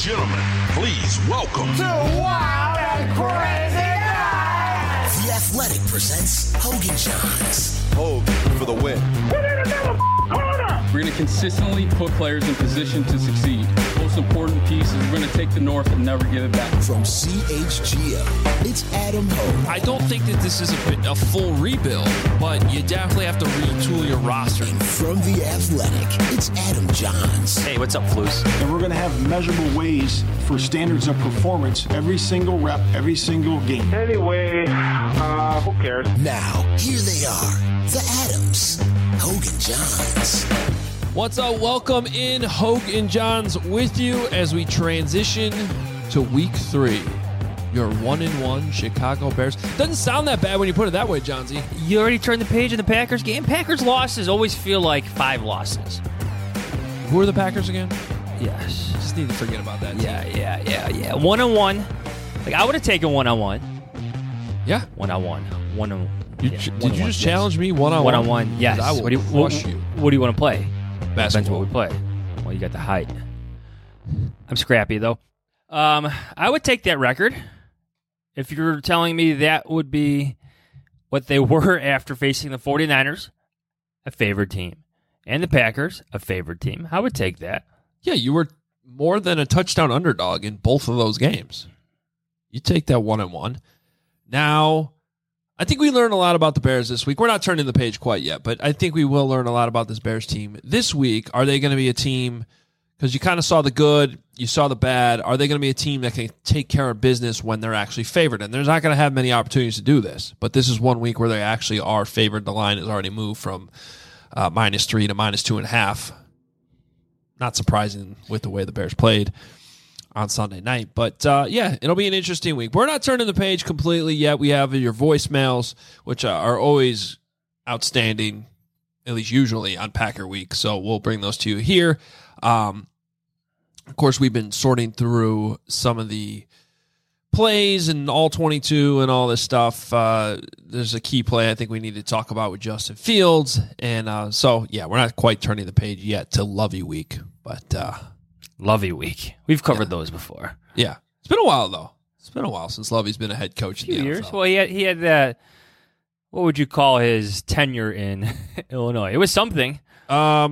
gentlemen, please welcome to Wild and Crazy Nights. The Athletic presents Hogan Johns. Hogan for the win. We're going to consistently put players in position to succeed. Most important piece is we're going to take the North and never give it back. From CHGO, it's Adam Hogue. I don't think that this is a full rebuild, but you definitely have to retool your roster. And from The Athletic, it's Adam Johns. Hey, what's up, Flus? And we're going to have measurable ways for standards of performance every single rep, every single game. Anyway, who cares? Now, here they are, the Adams, Hogan Johns. What's up? Welcome in, Hogue and Johns with you as we transition to week 3. Your 1-1 Chicago Bears. Doesn't sound that bad when you put it that way, Johnsy. You already turned the page in the Packers game. Packers losses always feel like 5 losses. Who are the Packers again? Yes. Just need to forget about that. Yeah. 1-1. Like, I would have taken 1-1. Yeah. 1-1. Did you just challenge me 1-on-1? 1-on-1, yes. I will crush you. What do you want to play? Basketball. Depends what we play. Well, you got the height. I'm scrappy, though. I would take that record. If you're telling me that would be what they were after facing the 49ers, a favored team, and the Packers, a favored team, I would take that. Yeah, you were more than a touchdown underdog in both of those games. You take that 1-1. Now, I think we learned a lot about the Bears this week. We're not turning the page quite yet, but I think we will learn a lot about this Bears team this week. Are they going to be a team, because you kind of saw the good, you saw the bad, are they going to be a team that can take care of business when they're actually favored? And they're not going to have many opportunities to do this, but this is one week where they actually are favored. The line has already moved from -3 to -2.5. Not surprising with the way the Bears played on Sunday night. But, yeah, it'll be an interesting week. We're not turning the page completely yet. We have your voicemails, which are always outstanding, at least usually on Packer Week. So we'll bring those to you here. Of course, we've been sorting through some of the plays and all 22 and all this stuff. There's a key play I think we need to talk about with Justin Fields. And so, yeah, we're not quite turning the page yet to Lovey Week, but Lovey Week. We've covered those before. yeah. It's been a while, though. It's been a while since Lovey's been a head coach in the years. NFL. Well, he had that, what would you call his tenure in Illinois? It was something. A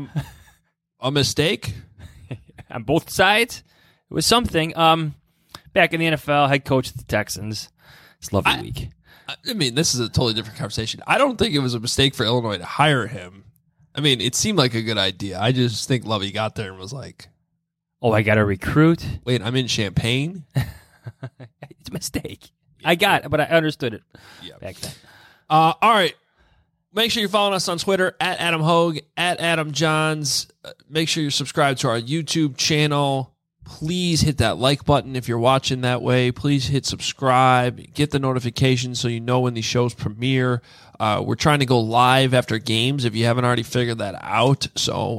mistake? On both sides, it was something. Back in the NFL, head coach of the Texans. It's Lovey Week. I mean, this is a totally different conversation. I don't think it was a mistake for Illinois to hire him. I mean, it seemed like a good idea. I just think Lovey got there and was like, oh, I got to recruit? Wait, I'm in Champaign? It's a mistake. I got it, but I understood it back then. All right. Make sure you're following us on Twitter, at Adam Hogue, at Adam Johns. Make sure you're subscribed to our YouTube channel. Please hit that like button if you're watching that way. Please hit subscribe. Get the notifications so you know when these shows premiere. We're trying to go live after games if you haven't already figured that out. So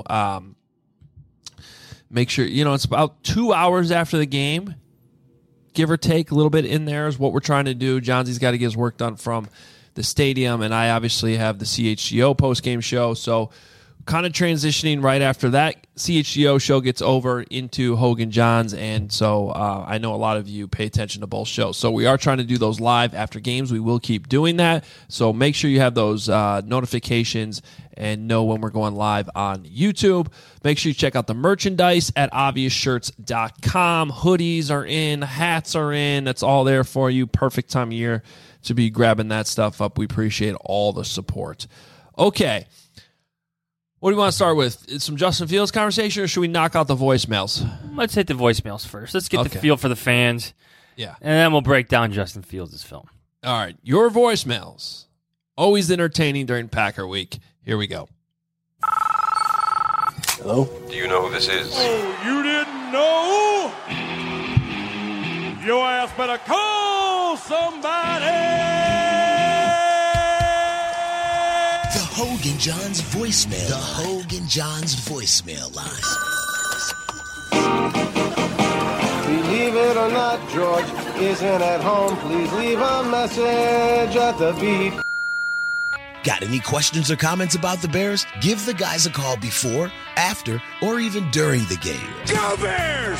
make sure, it's about 2 hours after the game, give or take a little bit in there is what we're trying to do. Johnsy's got to get his work done from the stadium, and I obviously have the CHGO post-game show, so kind of transitioning right after that CHGO show gets over into Hogan Johns, and so I know a lot of you pay attention to both shows. So we are trying to do those live after games. We will keep doing that, so make sure you have those notifications and know when we're going live on YouTube. Make sure you check out the merchandise at obviousshirts.com. Hoodies are in, hats are in. That's all there for you. Perfect time of year to be grabbing that stuff up. We appreciate all the support. Okay. What do you want to start with? Some Justin Fields conversation, or should we knock out the voicemails? Let's hit the voicemails first. Let's get the feel for the fans. Yeah. And then we'll break down Justin Fields' film. All right. Your voicemails. Always entertaining during Packer Week. Here we go. Hello? Do you know who this is? Oh, you didn't know? Your ass better call somebody. The Hogan Johns voicemail. The Hogan Johns voicemail line. Believe it or not, George isn't at home. Please leave a message at the beep. Got any questions or comments about the Bears? Give the guys a call before, after, or even during the game. Go Bears!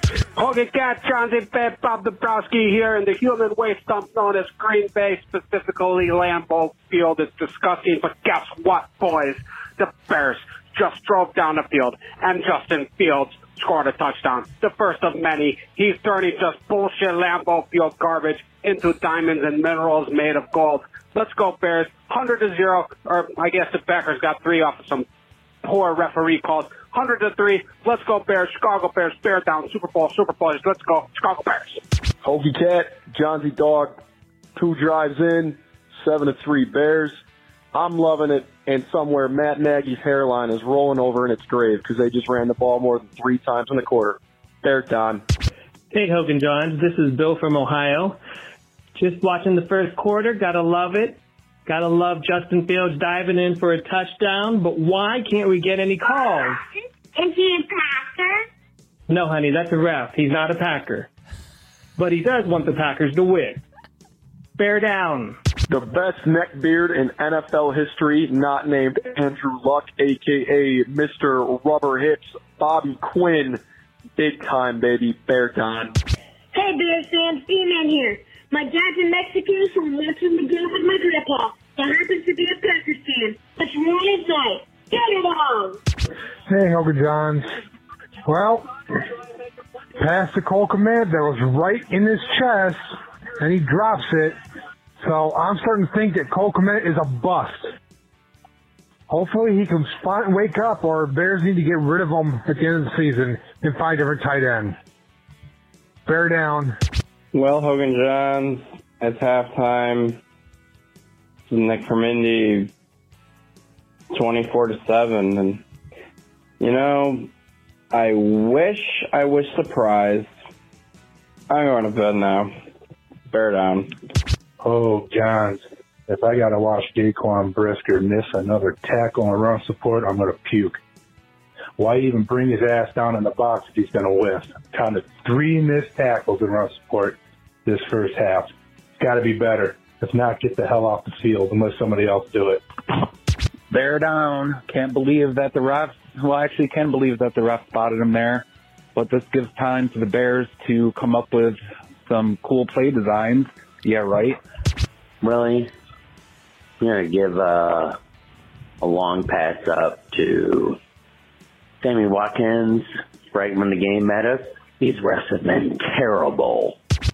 Hogan Cat, John Z. Bob Dabrowski here, and the human waste dump known as Green Bay, specifically Lambeau Field, is disgusting. But guess what, boys? The Bears just drove down the field, and Justin Fields scored a touchdown. The first of many. He's turning just bullshit Lambeau Field garbage into diamonds and minerals made of gold. Let's go, Bears. 100-0, or I guess the Packers got 3 off of some poor referee calls. 100-3. Let's go, Bears. Chicago Bears. Bear down. Super Bowl. Let's go. Chicago Bears. Hokie Cat, John Z. Dog, 2 drives in, 7-3 Bears. I'm loving it, and somewhere Matt Nagy's hairline is rolling over in its grave because they just ran the ball more than 3 times in the quarter. Bear down. Hey, Hogan Johns. This is Bill from Ohio. Just watching the first quarter. Gotta love it. Gotta love Justin Fields diving in for a touchdown, but why can't we get any calls? Is he a Packer? No, honey, that's a ref. He's not a Packer. But he does want the Packers to win. Bear down. The best neckbeard in NFL history, not named Andrew Luck, a.k.a. Mr. Rubber Hips, Bobby Quinn. Big time, baby. Bear down. Hey, Bears fans, B-Man here. My dad's in Mexico, so I'm watching the game with my grandpa. That happens to be a Packers fan. Let's ruin his night. Get it on! Hey, Hogan Johns. Well, pass to Cole Kmet that was right in his chest, and he drops it. So I'm starting to think that Cole Kmet is a bust. Hopefully he can wake up, or Bears need to get rid of him at the end of the season and find a different tight end. Bear down. Well, Hogan Johns, it's halftime. Nick from Indy, 24-7, and you know, I wish I was surprised. I'm going to bed now. Bear down. Oh, Johns, if I got to watch Daquan Brisker miss another tackle and run support, I'm going to puke. Why even bring his ass down in the box if he's going to whiff? Counted 3 missed tackles and run support this first half. It's got to be better. If not, get the hell off the field and let somebody else do it. Bear down. Can't believe that the refs, well, actually can believe that the ref spotted him there. But this gives time for the Bears to come up with some cool play designs. Yeah, right? Really? You're going to give a long pass up to Sammy Watkins right when the game met us? These refs have been terrible.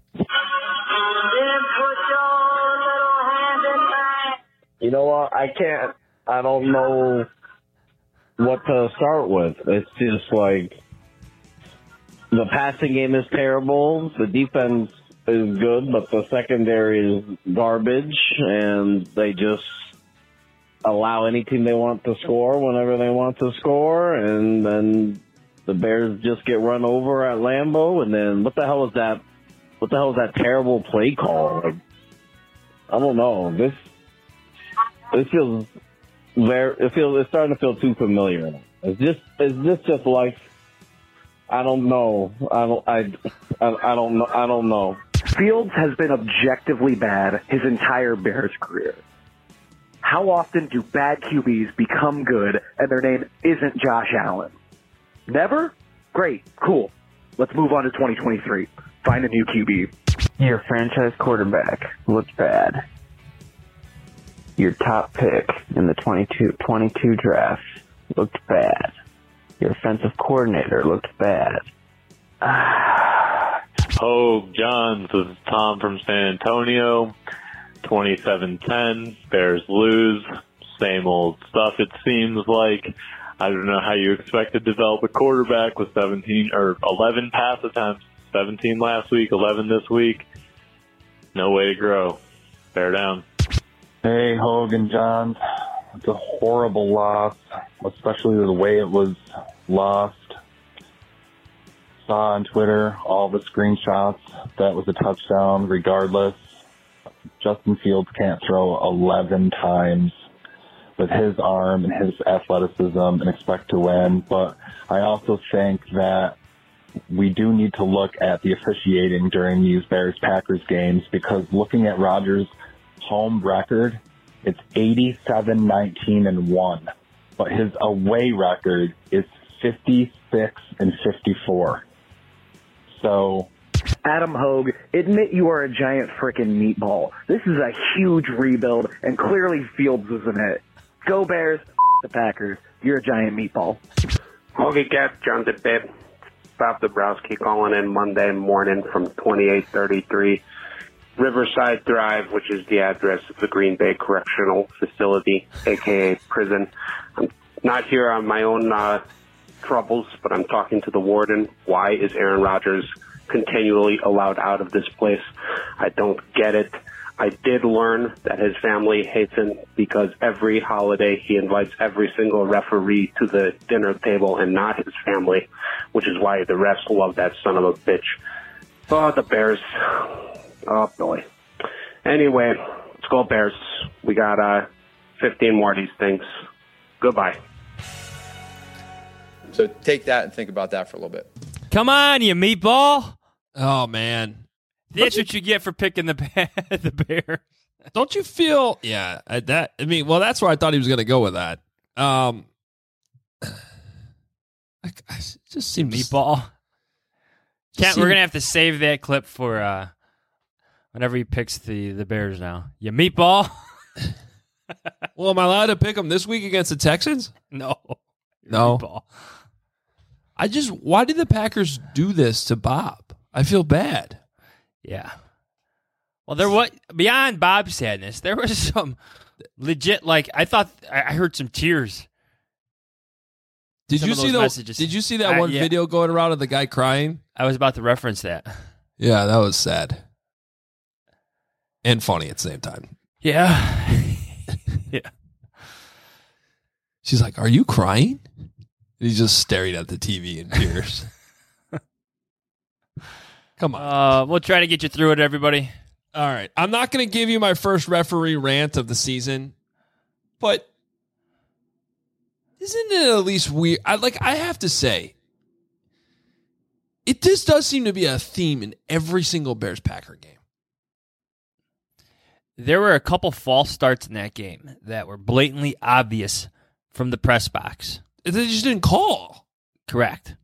You know what? I don't know what to start with. It's just like the passing game is terrible. The defense is good, but the secondary is garbage, and they just allow any team they want to score whenever they want to score, and then the Bears just get run over at Lambeau, and then what the hell is that? What the hell is that terrible play call? Like, I don't know. This feels it's starting to feel too familiar. Is this just like, I don't know. I don't know. Fields has been objectively bad his entire Bears career. How often do bad QBs become good and their name isn't Josh Allen? Never? Great. Cool. Let's move on to 2023. Find a new QB. Your franchise quarterback looked bad. Your top pick in the 22 draft looked bad. Your offensive coordinator looked bad. Hogue Johns, this is Tom from San Antonio. 27-10, Bears lose. Same old stuff, it seems like. I don't know how you expect to develop a quarterback with 17 or 11 pass attempts. 17 last week, 11 this week. No way to grow. Bear down. Hey, Hogan Johns. It's a horrible loss, especially the way it was lost. Saw on Twitter all the screenshots. That was a touchdown regardless. Justin Fields can't throw 11 times with his arm and his athleticism and expect to win. But I also think that we do need to look at the officiating during these Bears-Packers games, because looking at Rodgers' home record, it's 87-19-1. But his away record is 56-54. So, Adam Hogue, admit you are a giant frickin' meatball. This is a huge rebuild, and clearly Fields isn't it. Go Bears, the Packers. You're a giant meatball. Hoagie Cat, John DeBib, Bob Dabrowski calling in Monday morning from 2833 Riverside Drive, which is the address of the Green Bay Correctional Facility, a.k.a. prison. I'm not here on my own troubles, but I'm talking to the warden. Why is Aaron Rodgers continually allowed out of this place? I don't get it. I did learn that his family hates him because every holiday he invites every single referee to the dinner table and not his family, which is why the refs love that son of a bitch. Oh, the Bears. Oh, boy. Anyway, let's go Bears. We got 15 more of these things. Goodbye. So take that and think about that for a little bit. Come on, you meatball. Oh, man. That's what you get for picking the Bears. Don't you feel? Yeah, that's where I thought he was going to go with that. I just seemed meatball. We're going to have to save that clip for whenever he picks the Bears now. You meatball. Well, am I allowed to pick them this week against the Texans? No. Meatball. Why did the Packers do this to Bob? I feel bad. Yeah. Well, beyond Bob's sadness, there was some legit, I thought I heard some tears. Did you see that one video going around of the guy crying? I was about to reference that. Yeah, that was sad. And funny at the same time. Yeah. Yeah. She's like, "Are you crying?" And he's just staring at the TV in tears. Come on. We'll try to get you through it, everybody. All right. I'm not going to give you my first referee rant of the season, but isn't it at least weird? I have to say, this does seem to be a theme in every single Bears-Packer game. There were a couple false starts in that game that were blatantly obvious from the press box. They just didn't call. Correct.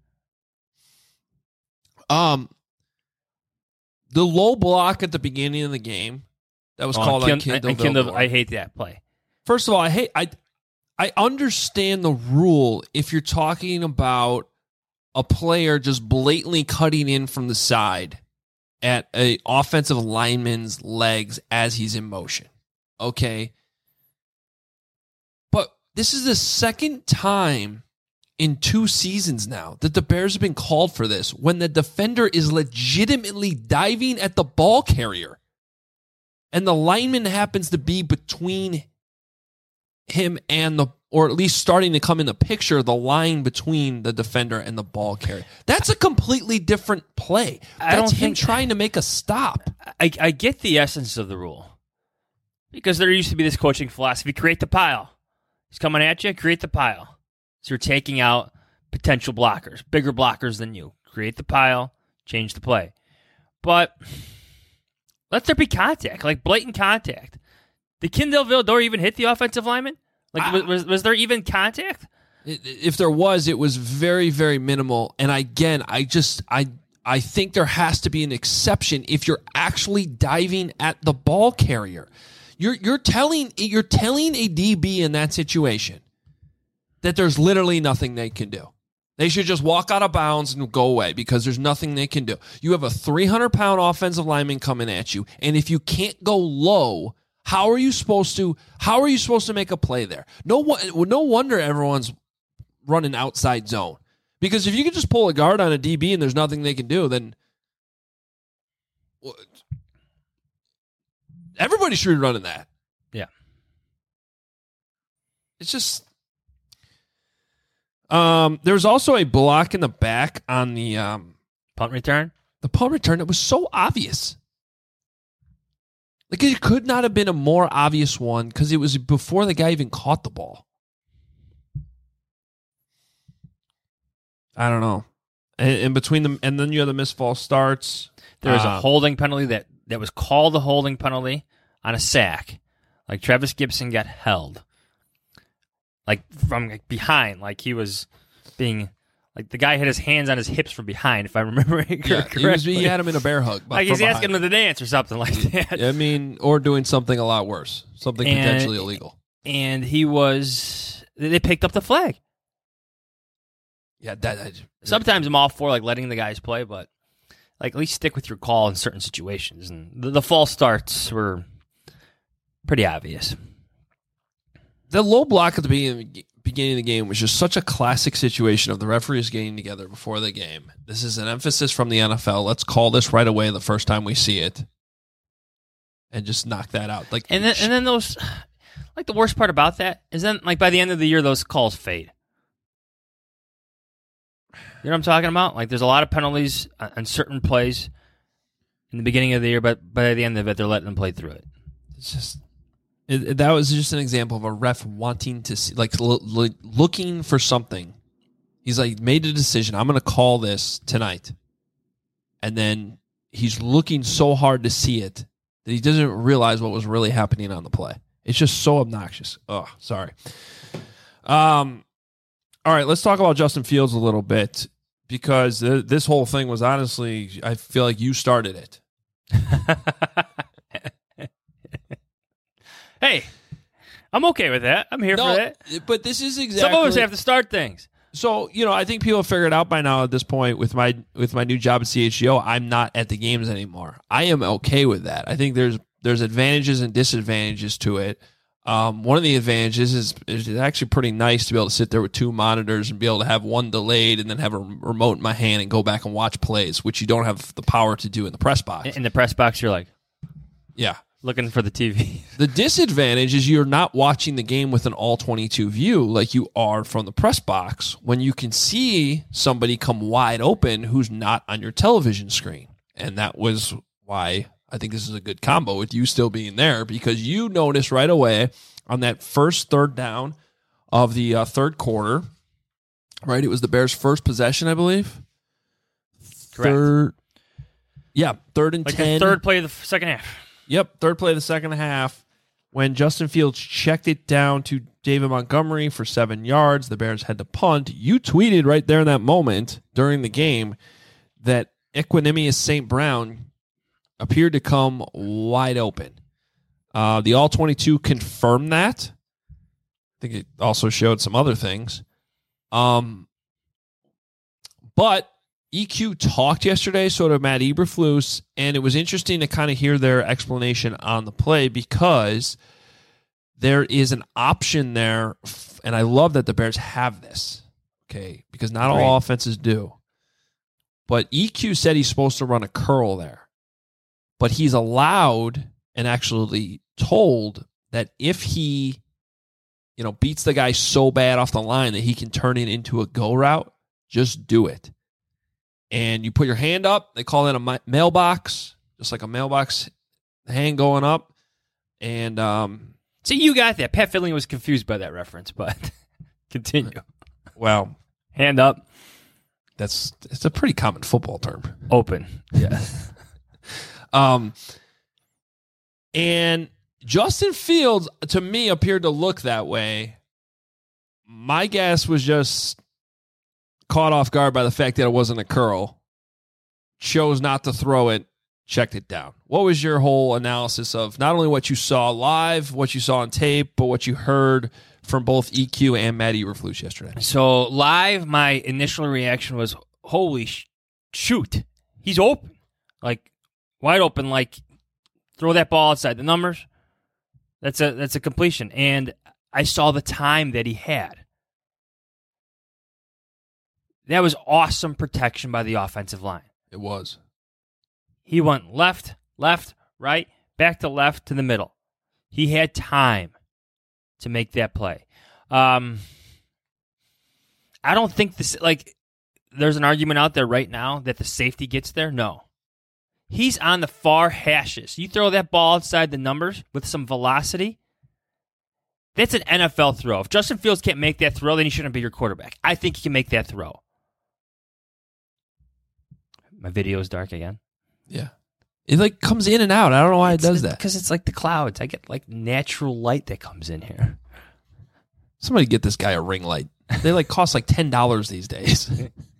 The low block at the beginning of the game that was called on Kindle. I hate that play. First of all, I understand the rule if you're talking about a player just blatantly cutting in from the side at an offensive lineman's legs as he's in motion. Okay? But this is the second time in 2 seasons now that the Bears have been called for this when the defender is legitimately diving at the ball carrier and the lineman happens to be between him and or at least starting to come in the picture, the line between the defender and the ball carrier. That's a completely different play. That's him trying to make a stop. I get the essence of the rule because there used to be this coaching philosophy, create the pile. He's coming at you, create the pile. So you're taking out potential blockers, bigger blockers than you. Create the pile, change the play. But let there be contact, like blatant contact. Did Kindle Vildor even hit the offensive lineman? Was there even contact? If there was, it was very, very minimal. And again, I think there has to be an exception if you're actually diving at the ball carrier. You're telling a DB in that situation that there's literally nothing they can do. They should just walk out of bounds and go away because there's nothing they can do. You have a 300-pound offensive lineman coming at you, and if you can't go low, how are you supposed to make a play there? No wonder everyone's running outside zone. Because if you can just pull a guard on a DB and there's nothing they can do, then everybody should be running that. Yeah. It's just there's also a block in the back on the punt return. The punt return, it was so obvious. Like, it could not have been a more obvious one because it was before the guy even caught the ball. I don't know. In between them, and then you have the missed false starts. There was a holding penalty that was called a holding penalty on a sack. Like, Travis Gibson got held. Like, from behind. Like, he was being Like the guy had his hands on his hips from behind, if I remember it correctly. He had him in a bear hug. Like he's asking him to dance or something like that. I mean, or doing something a lot worse, something potentially illegal. And they picked up the flag. Yeah, sometimes I'm all for like letting the guys play, but like at least stick with your call in certain situations. And the false starts were pretty obvious. The low block at the beginning of the game was just such a classic situation of the referees getting together before the game. This is an emphasis from the NFL. Let's call this right away the first time we see it, and just knock that out. Like, and then those, like the worst part about that is then like by the end of the year those calls fade. You know what I'm talking about? Like there's a lot of penalties on certain plays in the beginning of the year, but by the end of it they're letting them play through it. It's just. That was just an example of a ref wanting to see, like looking for something. He's like made a decision. I'm going to call this tonight, and then he's looking so hard to see it that he doesn't realize what was really happening on the play. It's just so obnoxious. Oh, sorry. All right, let's talk about Justin Fields a little bit because this whole thing was honestly, I feel like you started it. Hey, I'm okay with that. I'm here for that. But this is exactly... Some of us have to start things. So, I think people have figured out by now at this point with my new job at CHGO, I'm not at the games anymore. I am okay with that. I think there's advantages and disadvantages to it. One of the advantages is it's actually pretty nice to be able to sit there with two monitors and be able to have one delayed and then have a remote in my hand and go back and watch plays, which you don't have the power to do in the press box. In the press box, you're like... Yeah. Looking for the TV. The disadvantage is you're not watching the game with an all-22 view like you are from the press box when you can see somebody come wide open who's not on your television screen. And that was why I think this is a good combo with you still being there, because you noticed right away on that first third down of the third quarter, right? It was the Bears' first possession, I believe. Correct. Third and 10. The third play of the second half. Yep, third play of the second half. When Justin Fields checked it down to David Montgomery for 7 yards, the Bears had to punt. You tweeted right there in that moment during the game that Equanimeous St. Brown appeared to come wide open. The All-22 confirmed that. I think it also showed some other things. But EQ talked yesterday, so did Matt Eberflus, and it was interesting to kind of hear their explanation on the play because there is an option there, and I love that the Bears have this, okay, because not all offenses do. But EQ said he's supposed to run a curl there, but he's allowed and actually told that if he, beats the guy so bad off the line that he can turn it into a go route, just do it. And you put your hand up. They call that a mailbox, just like a mailbox hand going up. And see, you got that. Pat Finley was confused by that reference, but continue. Well, hand up. It's a pretty common football term. Open. Yeah. And Justin Fields, to me, appeared to look that way. My guess was just caught off guard by the fact that it wasn't a curl, chose not to throw it, checked it down. What was your whole analysis of not only what you saw live, what you saw on tape, but what you heard from both EQ and Matt Eberflus yesterday? So live, my initial reaction was, holy shoot, he's open. Like, wide open, like, throw that ball outside the numbers. That's a completion. And I saw the time that he had. That was awesome protection by the offensive line. It was. He went left, right, back to left to the middle. He had time to make that play. I don't think this, there's an argument out there right now that the safety gets there. No. He's on the far hashes. You throw that ball outside the numbers with some velocity, that's an NFL throw. If Justin Fields can't make that throw, then he shouldn't be your quarterback. I think he can make that throw. My video is dark again. Yeah. It comes in and out. I don't know why it does that. Because it's like the clouds. I get natural light that comes in here. Somebody get this guy a ring light. They cost $10 these days.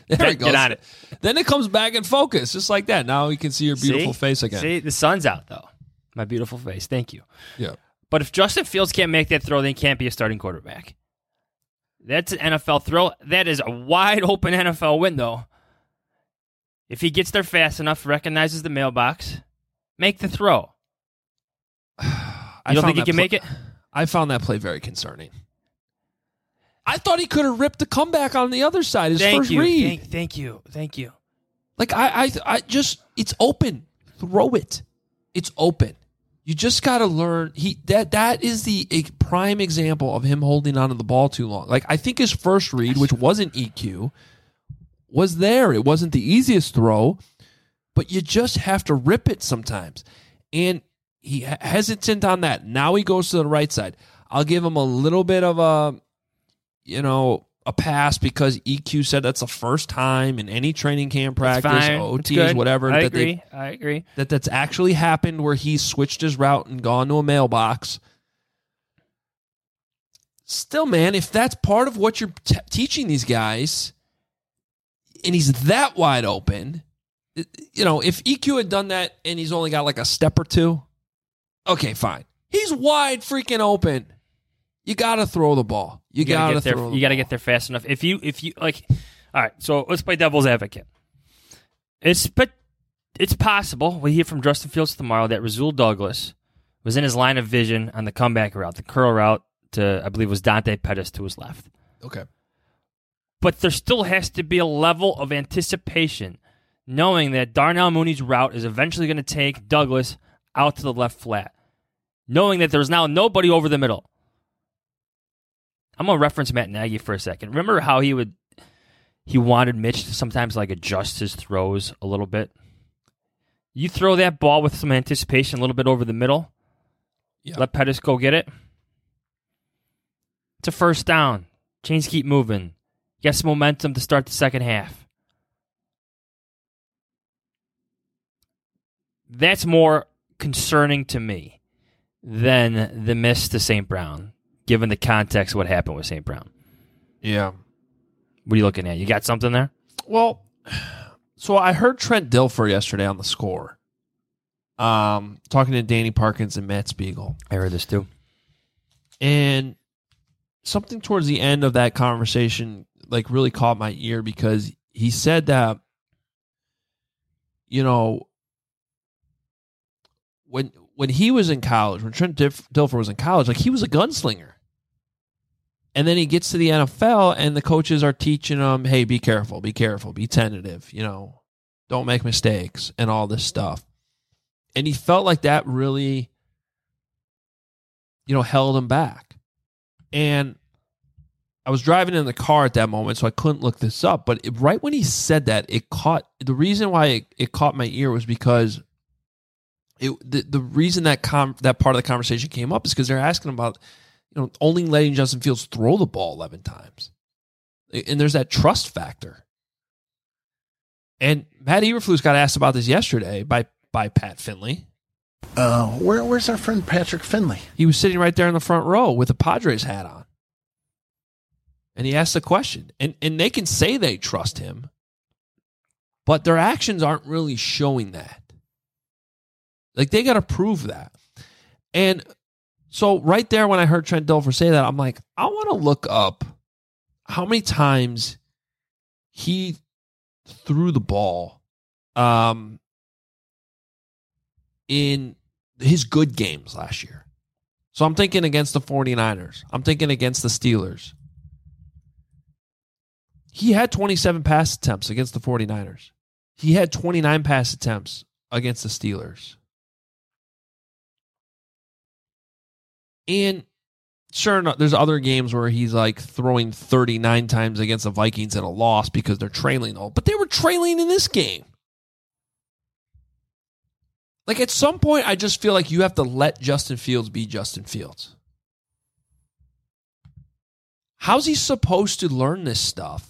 There he goes. Get on it. Then it comes back in focus, just like that. Now we can see your beautiful face again. See, the sun's out, though. My beautiful face. Thank you. Yeah. But if Justin Fields can't make that throw, then he can't be a starting quarterback. That's an NFL throw. That is a wide open NFL window. If he gets there fast enough, recognizes the mailbox, make the throw. You don't think he can make it? I found that play very concerning. I thought he could have ripped the comeback on the other side. His first read. Thank you. Like I just, it's open. Throw it. It's open. You just got to learn. That is a prime example of him holding onto the ball too long. Like I think his first read, which wasn't EQ, was there. It wasn't the easiest throw, but you just have to rip it sometimes. And he hesitant on that. Now he goes to the right side. I'll give him a little bit of a pass because EQ said that's the first time in any training camp practice, OTs, whatever. I agree. That's actually happened where he switched his route and gone to a mailbox. Still, man, if that's part of what you're teaching these guys and he's that wide open, if EQ had done that and he's only got like a step or two, okay, fine. He's wide freaking open. You got to throw the ball. You got to throw. You got to get there fast enough. If you like, all right. So let's play devil's advocate. It's possible we hear from Justin Fields tomorrow that Rasul Douglas was in his line of vision on the comeback route, the curl route to I believe was Dante Pettis to his left. Okay, but there still has to be a level of anticipation, knowing that Darnell Mooney's route is eventually going to take Douglas out to the left flat, knowing that there's now nobody over the middle. I'm going to reference Matt Nagy for a second. Remember how he wanted Mitch to sometimes like adjust his throws a little bit? You throw that ball with some anticipation a little bit over the middle. Yeah. Let Pettis go get it. It's a first down. Chains keep moving. You got some momentum to start the second half. That's more concerning to me than the miss to St. Brown, given the context of what happened with St. Brown. Yeah. What are you looking at? You got something there? Well, so I heard Trent Dilfer yesterday on The Score, talking to Danny Parkins and Matt Spiegel. I heard this too. And something towards the end of that conversation like really caught my ear because he said that, when he was in college, when Trent Dilfer was in college, like he was a gunslinger. And then he gets to the NFL and the coaches are teaching him, hey, be careful, be tentative, don't make mistakes and all this stuff. And he felt like that really, held him back. And I was driving in the car at that moment, so I couldn't look this up. But right when he said that, the reason why it caught my ear was because the reason that part of the conversation came up is because they're asking about only letting Justin Fields throw the ball 11 times, and there's that trust factor. And Matt Eberflus got asked about this yesterday by Pat Finley. Where's our friend Patrick Finley? He was sitting right there in the front row with a Padres hat on, and he asked the question. And they can say they trust him, but their actions aren't really showing that. Like, they got to prove that. And so right there when I heard Trent Dilfer say that, I'm like, I want to look up how many times he threw the ball in his good games last year. So I'm thinking against the 49ers. I'm thinking against the Steelers. He had 27 pass attempts against the 49ers. He had 29 pass attempts against the Steelers. And sure enough, there's other games where he's like throwing 39 times against the Vikings in a loss because they're trailing all. But they were trailing in this game. Like, at some point, I just feel like you have to let Justin Fields be Justin Fields. How's he supposed to learn this stuff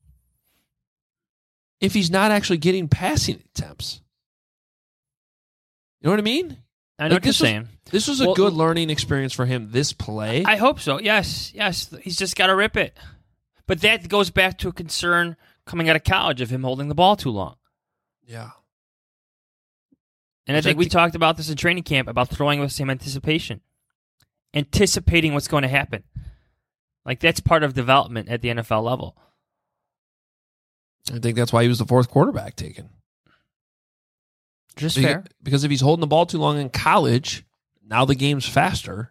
if he's not actually getting passing attempts? You know what I mean? I know what you're saying. This was a good learning experience for him, this play. I hope so. Yes. He's just got to rip it. But that goes back to a concern coming out of college of him holding the ball too long. Yeah. And I think we talked about this in training camp, about throwing with some anticipation. Anticipating what's going to happen. Like, that's part of development at the NFL level. I think that's why he was the fourth quarterback taken. Just fair. Because if he's holding the ball too long in college, now the game's faster.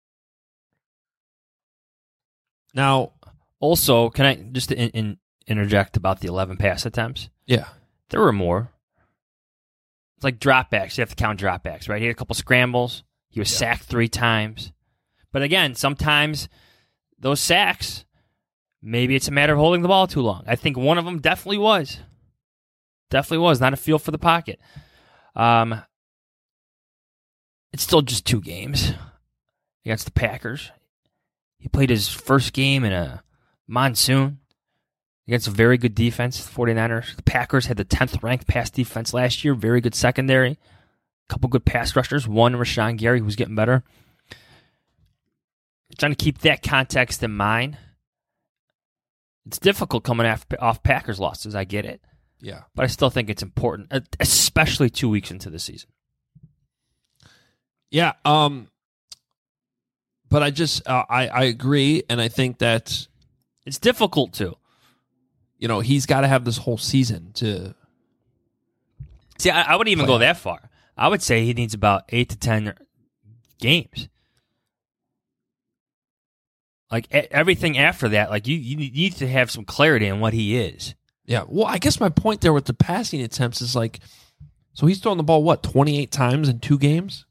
Now, also, can I just interject about the 11 pass attempts? Yeah. There were more. It's like dropbacks. You have to count dropbacks, right? He had a couple scrambles. He was sacked 3 times. But again, sometimes those sacks, maybe it's a matter of holding the ball too long. I think one of them definitely was. Definitely was. Not a feel for the pocket. It's still just 2 games against the Packers. He played his first game in a monsoon against a very good defense, the 49ers. The Packers had the 10th ranked pass defense last year. Very good secondary. A couple good pass rushers. One, Rashawn Gary, who's getting better. Trying to keep that context in mind. It's difficult coming off Packers losses. I get it. Yeah. But I still think it's important, especially 2 weeks into the season. Yeah. But I just, I agree. And I think that it's difficult to. You know, he's got to have this whole season to. See, I wouldn't even go that far. I would say he needs about 8 to 10 games. Like, everything after that, like, you need to have some clarity on what he is. Yeah, well, I guess my point there with the passing attempts is like, so he's throwing the ball, what, 28 times in 2 games?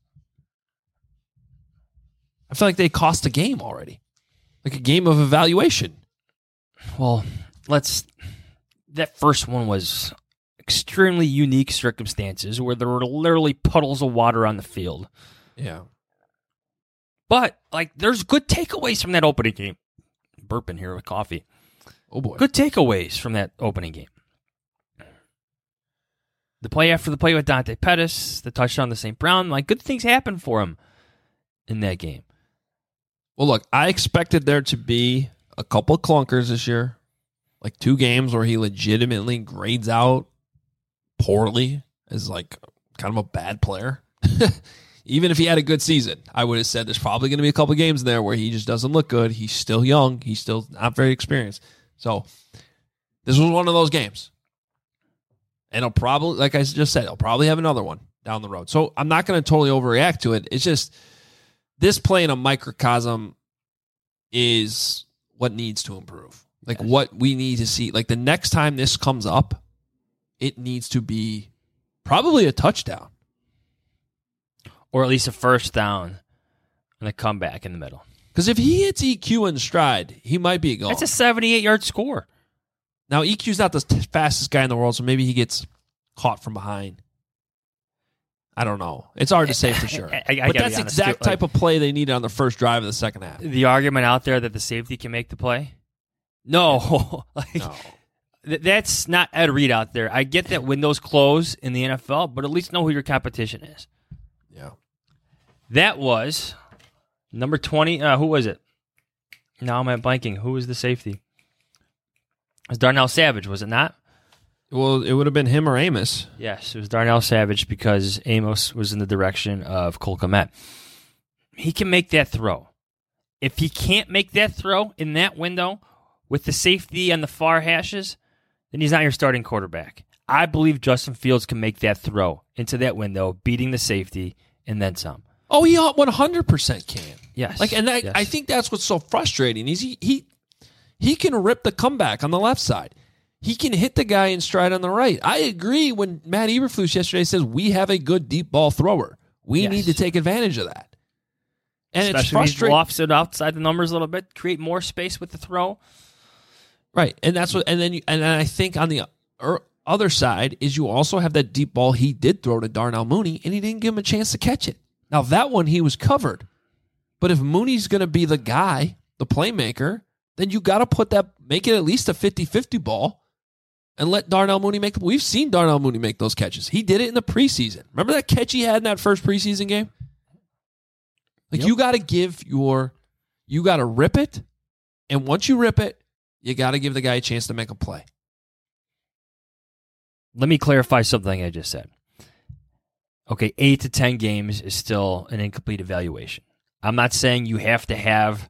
I feel like they cost a game already. Like a game of evaluation. Well, that first one was extremely unique circumstances where there were literally puddles of water on the field. Yeah. But, like, there's good takeaways from that opening game. Burping here with coffee. Oh, boy. Good takeaways from that opening game. The play after the play with Dante Pettis, the touchdown to St. Brown, like, good things happened for him in that game. Well, look, I expected there to be a couple of clunkers this year. Like 2 games where he legitimately grades out poorly as, like, kind of a bad player. Even if he had a good season, I would have said there's probably going to be a couple of games in there where he just doesn't look good. He's still young. He's still not very experienced. So this was one of those games. And he'll probably, like I just said, he'll probably have another one down the road. So I'm not going to totally overreact to it. It's just this play in a microcosm is what needs to improve. Like what we need to see. Like the next time this comes up, it needs to be probably a touchdown. Or at least a first down and a comeback in the middle. Because if he hits EQ in stride, he might be gone. That's a 78-yard score. Now, EQ's not the fastest guy in the world, so maybe he gets caught from behind. I don't know. It's hard to say for sure. But that's the exact type of play they needed on the first drive of the second half. The argument out there that the safety can make the play? No. No. That's not Ed Reed out there. I get that windows close in the NFL, but at least know who your competition is. Yeah. That was number 20. Who was it? Now I'm at blanking. Who was the safety? It was Darnell Savage, was it not? Well, it would have been him or Amos. Yes, it was Darnell Savage because Amos was in the direction of Cole Kmet. He can make that throw. If he can't make that throw in that window with the safety on the far hashes, then he's not your starting quarterback. I believe Justin Fields can make that throw into that window, beating the safety, and then some. Oh, he 100% can. Yes. Yes. I think that's what's so frustrating. Is he can rip the comeback on the left side. He can hit the guy in stride on the right. I agree when Matt Eberflus yesterday says we have a good deep ball thrower. We need to take advantage of that. And especially it's frustrating. He lofts it outside the numbers a little bit, create more space with the throw. Right, and that's what. And then I think on the other side is you also have that deep ball he did throw to Darnell Mooney, and he didn't give him a chance to catch it. Now that one he was covered, but if Mooney's going to be the guy, the playmaker, then you got to make it at least a 50-50 ball, and let Darnell Mooney make. We've seen Darnell Mooney make those catches. He did it in the preseason. Remember that catch he had in that first preseason game? Like you got to you got to rip it, and once you rip it, you got to give the guy a chance to make a play. let me clarify something I just said. Okay, 8 to 10 games is still an incomplete evaluation. I'm not saying you have to have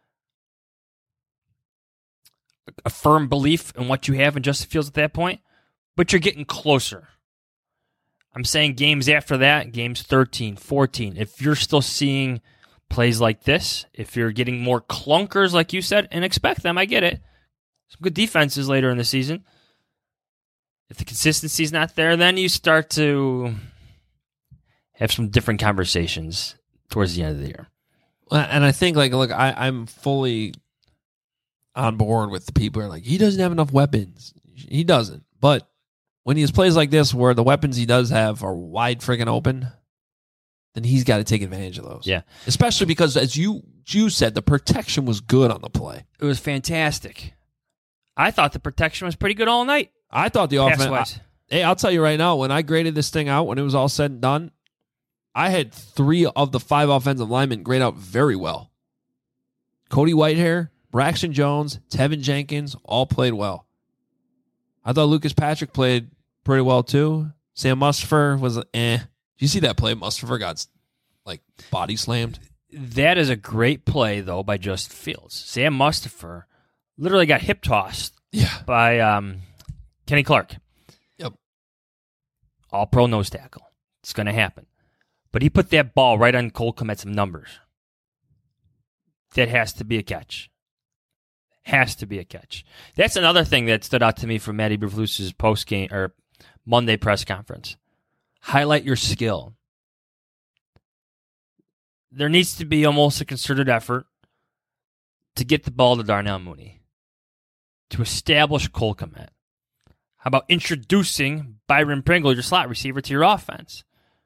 a firm belief in what you have in Justin Fields at that point, but you're getting closer. I'm saying games after that, games 13, 14, if you're still seeing plays like this, if you're getting more clunkers like you said, and expect them, I get it. Some good defenses later in the season. If the consistency's not there, then you start to have some different conversations towards the end of the year. And I think, look, I'm fully on board with the people who are like, he doesn't have enough weapons. He doesn't. But when he has plays like this where the weapons he does have are wide friggin' open, then he's got to take advantage of those. Yeah. Especially because, as you said, the protection was good on the play. It was fantastic. I thought the protection was pretty good all night. I thought the offense... Hey, I'll tell you right now, when I graded this thing out, when it was all said and done, I had 3 of the 5 offensive linemen grade out very well. Cody Whitehair, Braxton Jones, Tevin Jenkins all played well. I thought Lucas Patrick played pretty well too. Sam Mustipher was Did you see that play? Mustipher got body slammed. That is a great play though by Justin Fields. Sam Mustipher literally got hip tossed by Kenny Clark. Yep. All pro nose tackle. It's going to happen. But he put that ball right on Cole Kmet's numbers. That has to be a catch. Has to be a catch. That's another thing that stood out to me from Matty Eberflus's post-game or Monday press conference. Highlight your skill. There needs to be almost a concerted effort to get the ball to Darnell Mooney, to establish Cole Kmet. How about introducing Byron Pringle, your slot receiver, to your offense?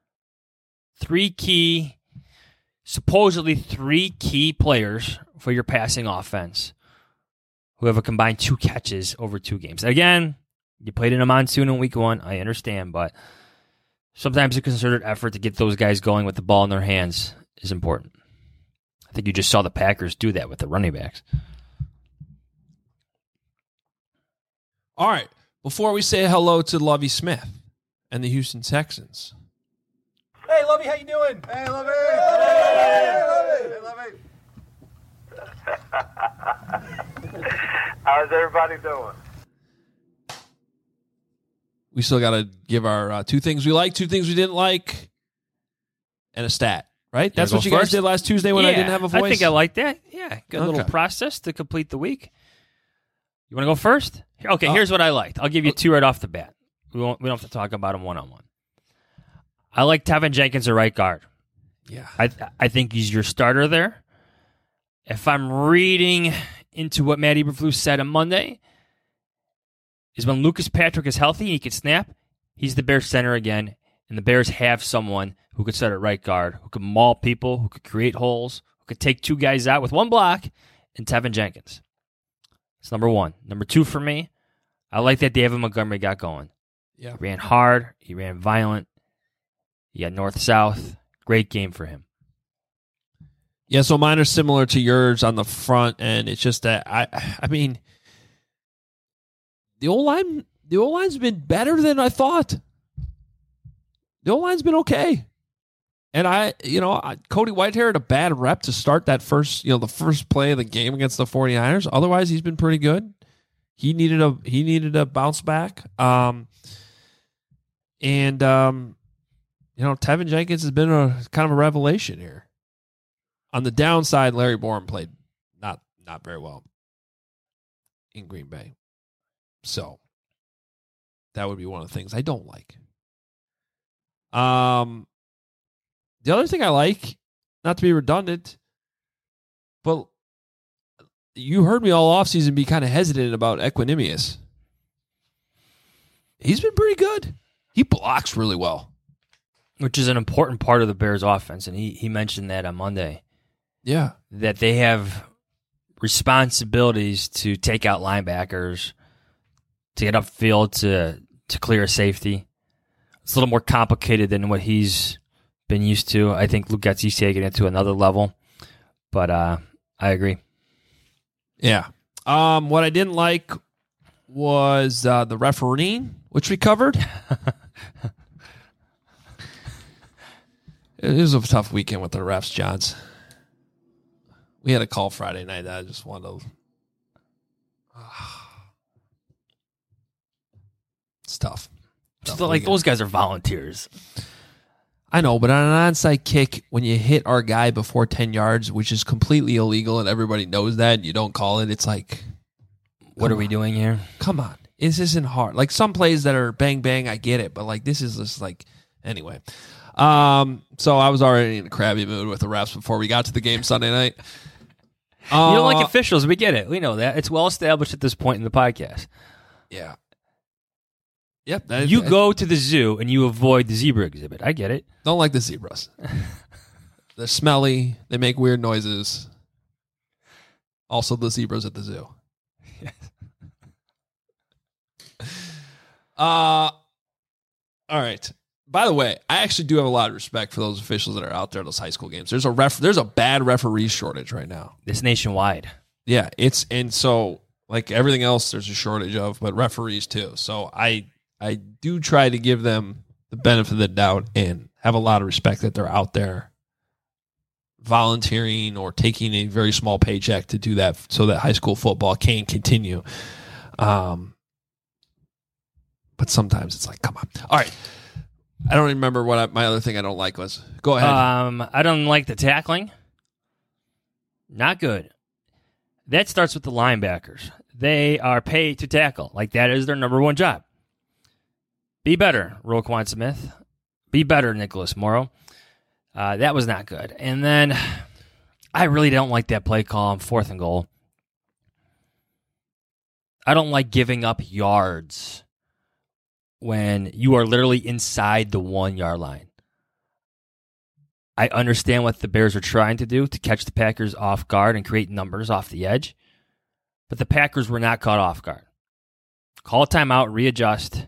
Supposedly three key players for your passing offense who have a combined 2 catches over 2 games. Again, you played in a monsoon in week 1. I understand, but sometimes a concerted effort to get those guys going with the ball in their hands is important. I think you just saw the Packers do that with the running backs. All right. Before we say hello to Lovie Smith and the Houston Texans. Hey, Lovie, how you doing? Hey, Lovie. Hey, Lovie. How's everybody doing? We still got to give our 2 things we like, 2 things we didn't like, and a stat, right? That's what you guys did last Tuesday when I didn't have a voice? I think I like that. Yeah, good little process to complete the week. You want to go first? Okay, here's what I liked. I'll give you 2 right off the bat. We don't have to talk about them one-on-one. I like Tevin Jenkins at right guard. Yeah. I think he's your starter there. If I'm reading into what Matt Eberflus said on Monday, is when Lucas Patrick is healthy, he can snap, he's the Bears center again, and the Bears have someone who could start at right guard, who could maul people, who could create holes, who could take 2 guys out with 1 block, and Tevin Jenkins. That's number 1. Number 2 for me, I like that David Montgomery got going. Yeah. He ran hard, he ran violent, he got north-south. Great game for him. Yeah, so mine are similar to yours on the front, and it's just that I mean, the O-line's been better than I thought. The O-line's been okay. And Cody Whitehair had a bad rep to start that the first play of the game against the 49ers. Otherwise, he's been pretty good. He needed a bounce back. Tevin Jenkins has been a kind of a revelation here. On the downside, Larry Borom played not very well in Green Bay. So that would be one of the things I don't like. The other thing I like, not to be redundant, but you heard me all offseason be kind of hesitant about Equanimous. He's been pretty good. He blocks really well. Which is an important part of the Bears' offense, and he mentioned that on Monday. Yeah. That they have responsibilities to take out linebackers, to get upfield, to clear a safety. It's a little more complicated than what he's been used to. I think Luke Getsy's taking it to another level, but I agree. Yeah. What I didn't like was the refereeing which we covered. It was a tough weekend with the refs, Johns. We had a call Friday night that I just wanted to... It's tough. Like, those guys are volunteers. I know, but on an onside kick, when you hit our guy before 10 yards, which is completely illegal and everybody knows that, and you don't call it, it's like... What are we doing here? Come on. This isn't hard. Like, some plays that are bang, bang, I get it, but, like, this is just, like... Anyway. So I was already in a crabby mood with the refs before we got to the game Sunday night. You don't like officials. We get it. We know that. It's well established at this point in the podcast. Yeah. Yep. You go to the zoo and you avoid the zebra exhibit. I get it. Don't like the zebras. They're smelly. They make weird noises. Also, the zebras at the zoo. All right. By the way, I actually do have a lot of respect for those officials that are out there at those high school games. There's a bad referee shortage right now. It's nationwide. Yeah, and so like everything else there's a shortage of, but referees too. So I do try to give them the benefit of the doubt and have a lot of respect that they're out there volunteering or taking a very small paycheck to do that so that high school football can continue. But sometimes it's like, come on. All right. I don't remember what my other thing I don't like was. Go ahead. I don't like the tackling. Not good. That starts with the linebackers. They are paid to tackle. Like, that is their number one job. Be better, Roquan Smith. Be better, Nicholas Morrow. That was not good. And then I really don't like that play call on 4th and goal. I don't like giving up yards when you are literally inside the 1 yard line. I understand what the Bears are trying to do to catch the Packers off guard and create numbers off the edge, but the Packers were not caught off guard. Call a timeout, readjust.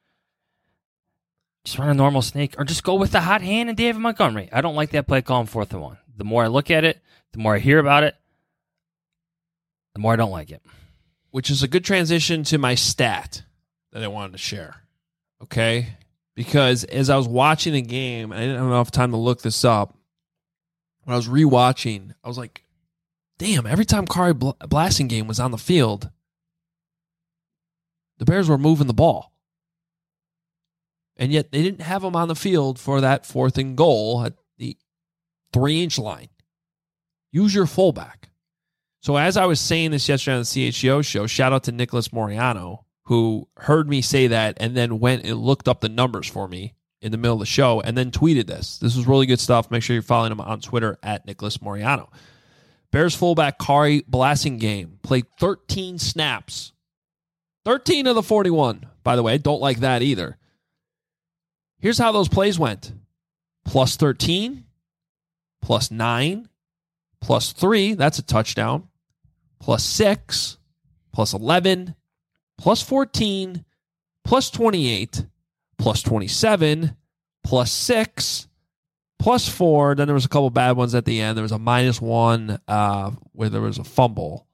Just run a normal snake, or just go with the hot hand and David Montgomery. I don't like that play call on 4th and 1. The more I look at it, the more I hear about it, the more I don't like it. Which is a good transition to my stat that I wanted to share. Okay? Because as I was watching the game, I didn't have enough time to look this up. When I was rewatching, I was like, damn, every time Khari Blasingame was on the field, the Bears were moving the ball. And yet they didn't have him on the field for that 4th and goal at the 3-inch line. Use your fullback. So as I was saying this yesterday on the CHGO show, shout out to Nicholas Moriano, who heard me say that and then went and looked up the numbers for me in the middle of the show and then tweeted this. This was really good stuff. Make sure you're following him on Twitter at Nicholas Moriano. Bears fullback Khari Blasingame played 13 snaps. 13 of the 41, by the way. Don't like that either. Here's how those plays went. Plus 13, plus 9, plus 3, that's a touchdown, plus 6, plus 11, plus 14, plus 28, plus 27, plus 6, plus 4. Then there was a couple bad ones at the end. There was a -1 where there was a fumble.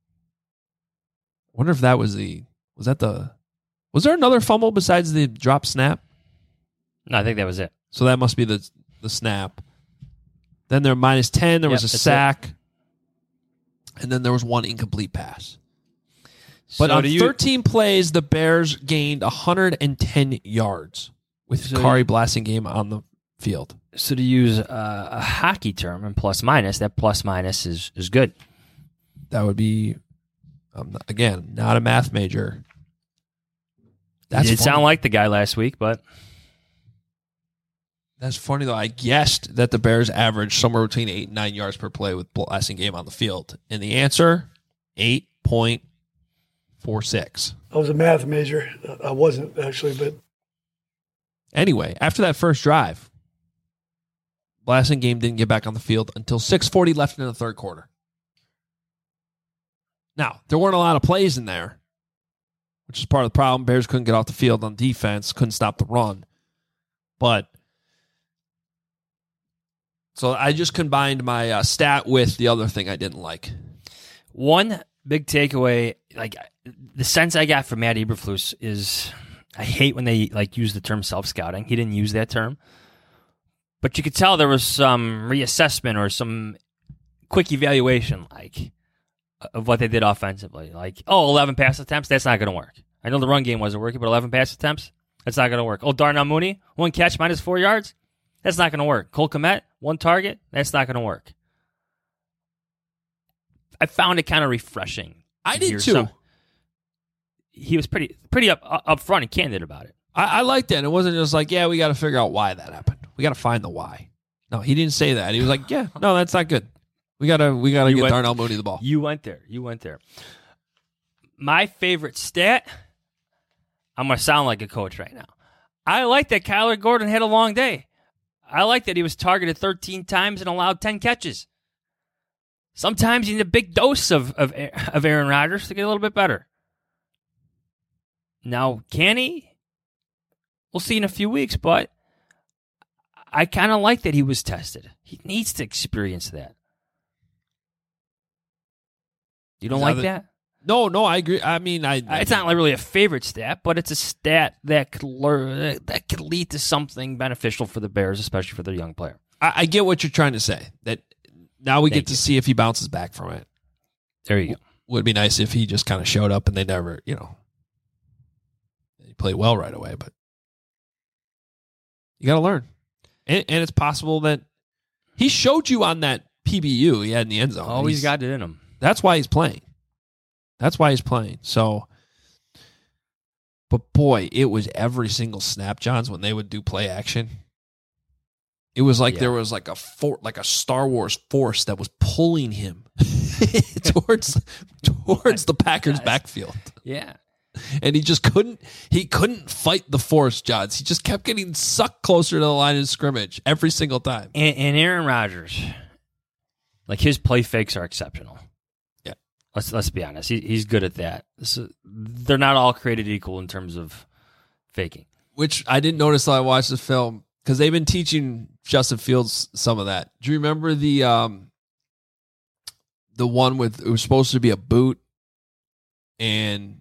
I wonder if that was was there another fumble besides the drop snap? No, I think that was it. So that must be the snap. Then there -10, there was a sack. And then there was 1 incomplete pass. But on 13 plays, the Bears gained 110 yards with Khari Blasingame on the field. So to use a hockey term and plus-minus, that plus-minus is good. That would be, again, not a math major. It did sound like the guy last week, but... That's funny, though. I guessed that the Bears averaged somewhere between 8 and 9 yards per play with Blasingame on the field. And the answer, 8.46. I was a math major. I wasn't, actually, but... Anyway, after that first drive, Blasingame didn't get back on the field until 6:40 left in the third quarter. Now, there weren't a lot of plays in there, which is part of the problem. Bears couldn't get off the field on defense, couldn't stop the run. But... So I just combined my stat with the other thing I didn't like. One big takeaway, like the sense I got from Matt Eberflus is I hate when they use the term self-scouting. He didn't use that term. But you could tell there was some reassessment or some quick evaluation of what they did offensively. 11 pass attempts, that's not going to work. I know the run game wasn't working, but 11 pass attempts, that's not going to work. Darnell Mooney, 1 catch, -4 yards, that's not going to work. Cole Kmet, 1 target, that's not going to work. I found it kind of refreshing. I did too. He was pretty up front and candid about it. I liked that. It wasn't just we got to figure out why that happened. We got to find the why. No, he didn't say that. He was like, yeah, no, that's not good. We gotta get Darnell Mooney the ball. You went there. My favorite stat, I'm going to sound like a coach right now. I like that Kyler Gordon had a long day. I like that he was targeted 13 times and allowed 10 catches. Sometimes you need a big dose of Aaron Rodgers to get a little bit better. Now, can he? We'll see in a few weeks, but I kind of like that he was tested. He needs to experience that. You don't like that? No, I agree. I mean, it's not really a favorite stat, but it's a stat that could lead to something beneficial for the Bears, especially for their young player. I get what you're trying to say. That now we get to see if he bounces back from it. There you go. Would be nice if he just kind of showed up and they never, he played well right away. But you got to learn, and it's possible that he showed you on that PBU he had in the end zone. Oh, he's got it in him. That's why he's playing. So, but boy, it was every single snap, Johns, when they would do play action. It was like there was like a Star Wars force that was pulling him towards the Packers backfield. Yeah. And he just couldn't fight the force, Johns. He just kept getting sucked closer to the line of scrimmage every single time. And Aaron Rodgers, his play fakes are exceptional. Yeah. Let's be honest. He's good at that. They're not all created equal in terms of faking. Which I didn't notice till I watched the film, because they've been teaching Justin Fields some of that. Do you remember the one with, it was supposed to be a boot, and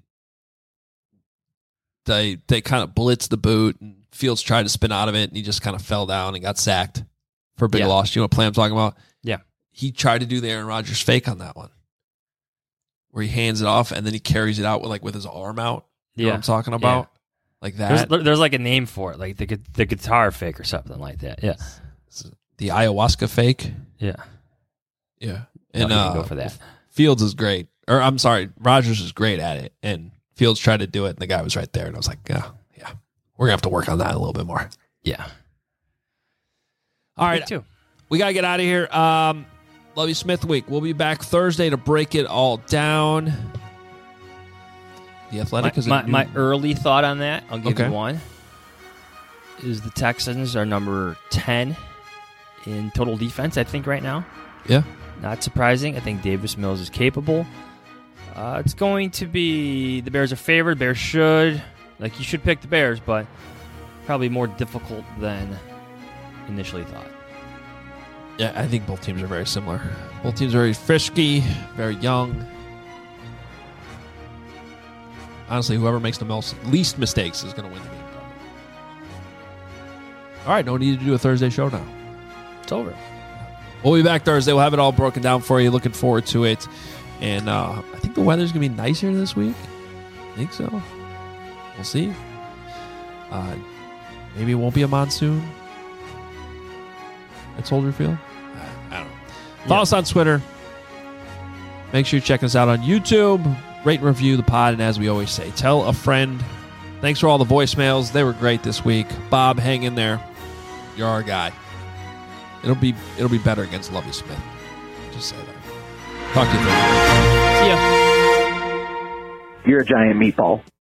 they kind of blitzed the boot, and Fields tried to spin out of it, and he just kind of fell down and got sacked for a big loss. You know what play I'm talking about? Yeah. He tried to do the Aaron Rodgers fake on that one, where he hands it off and then he carries it out with his arm out. You know what I'm talking about? Yeah. Like that. There's a name for it, like the guitar fake or something like that. Yeah. The ayahuasca fake. Yeah. Yeah. And And go for that. Fields is great. Or I'm sorry, Rodgers is great at it. And Fields tried to do it, and the guy was right there. And I was like, yeah, we're going to have to work on that a little bit more. Yeah. All right. Me too. We got to get out of here. Lovie Smith week. We'll be back Thursday to break it all down. The Athletic is my early thought on that, I'll give you one, is the Texans are number 10 in total defense, I think, right now. Yeah. Not surprising. I think Davis Mills is capable. It's going to be, the Bears are favored. Bears should. You should pick the Bears, but probably more difficult than initially thought. Yeah, I think both teams are very similar. Both teams are very frisky, very young. Honestly, whoever makes the least mistakes is going to win the game. All right, no need to do a Thursday show now. It's over. We'll be back Thursday. We'll have it all broken down for you. Looking forward to it. And I think the weather's going to be nicer this week. I think so. We'll see. Maybe it won't be a monsoon at Soldier Field. I don't know. Follow us on Twitter. Make sure you check us out on YouTube. Rate and review the pod. And as we always say, tell a friend. Thanks for all the voicemails. They were great this week. Bob, hang in there. You're our guy. It'll be better against Lovie Smith. Just say that. Talk to you later. See ya. You're a giant meatball.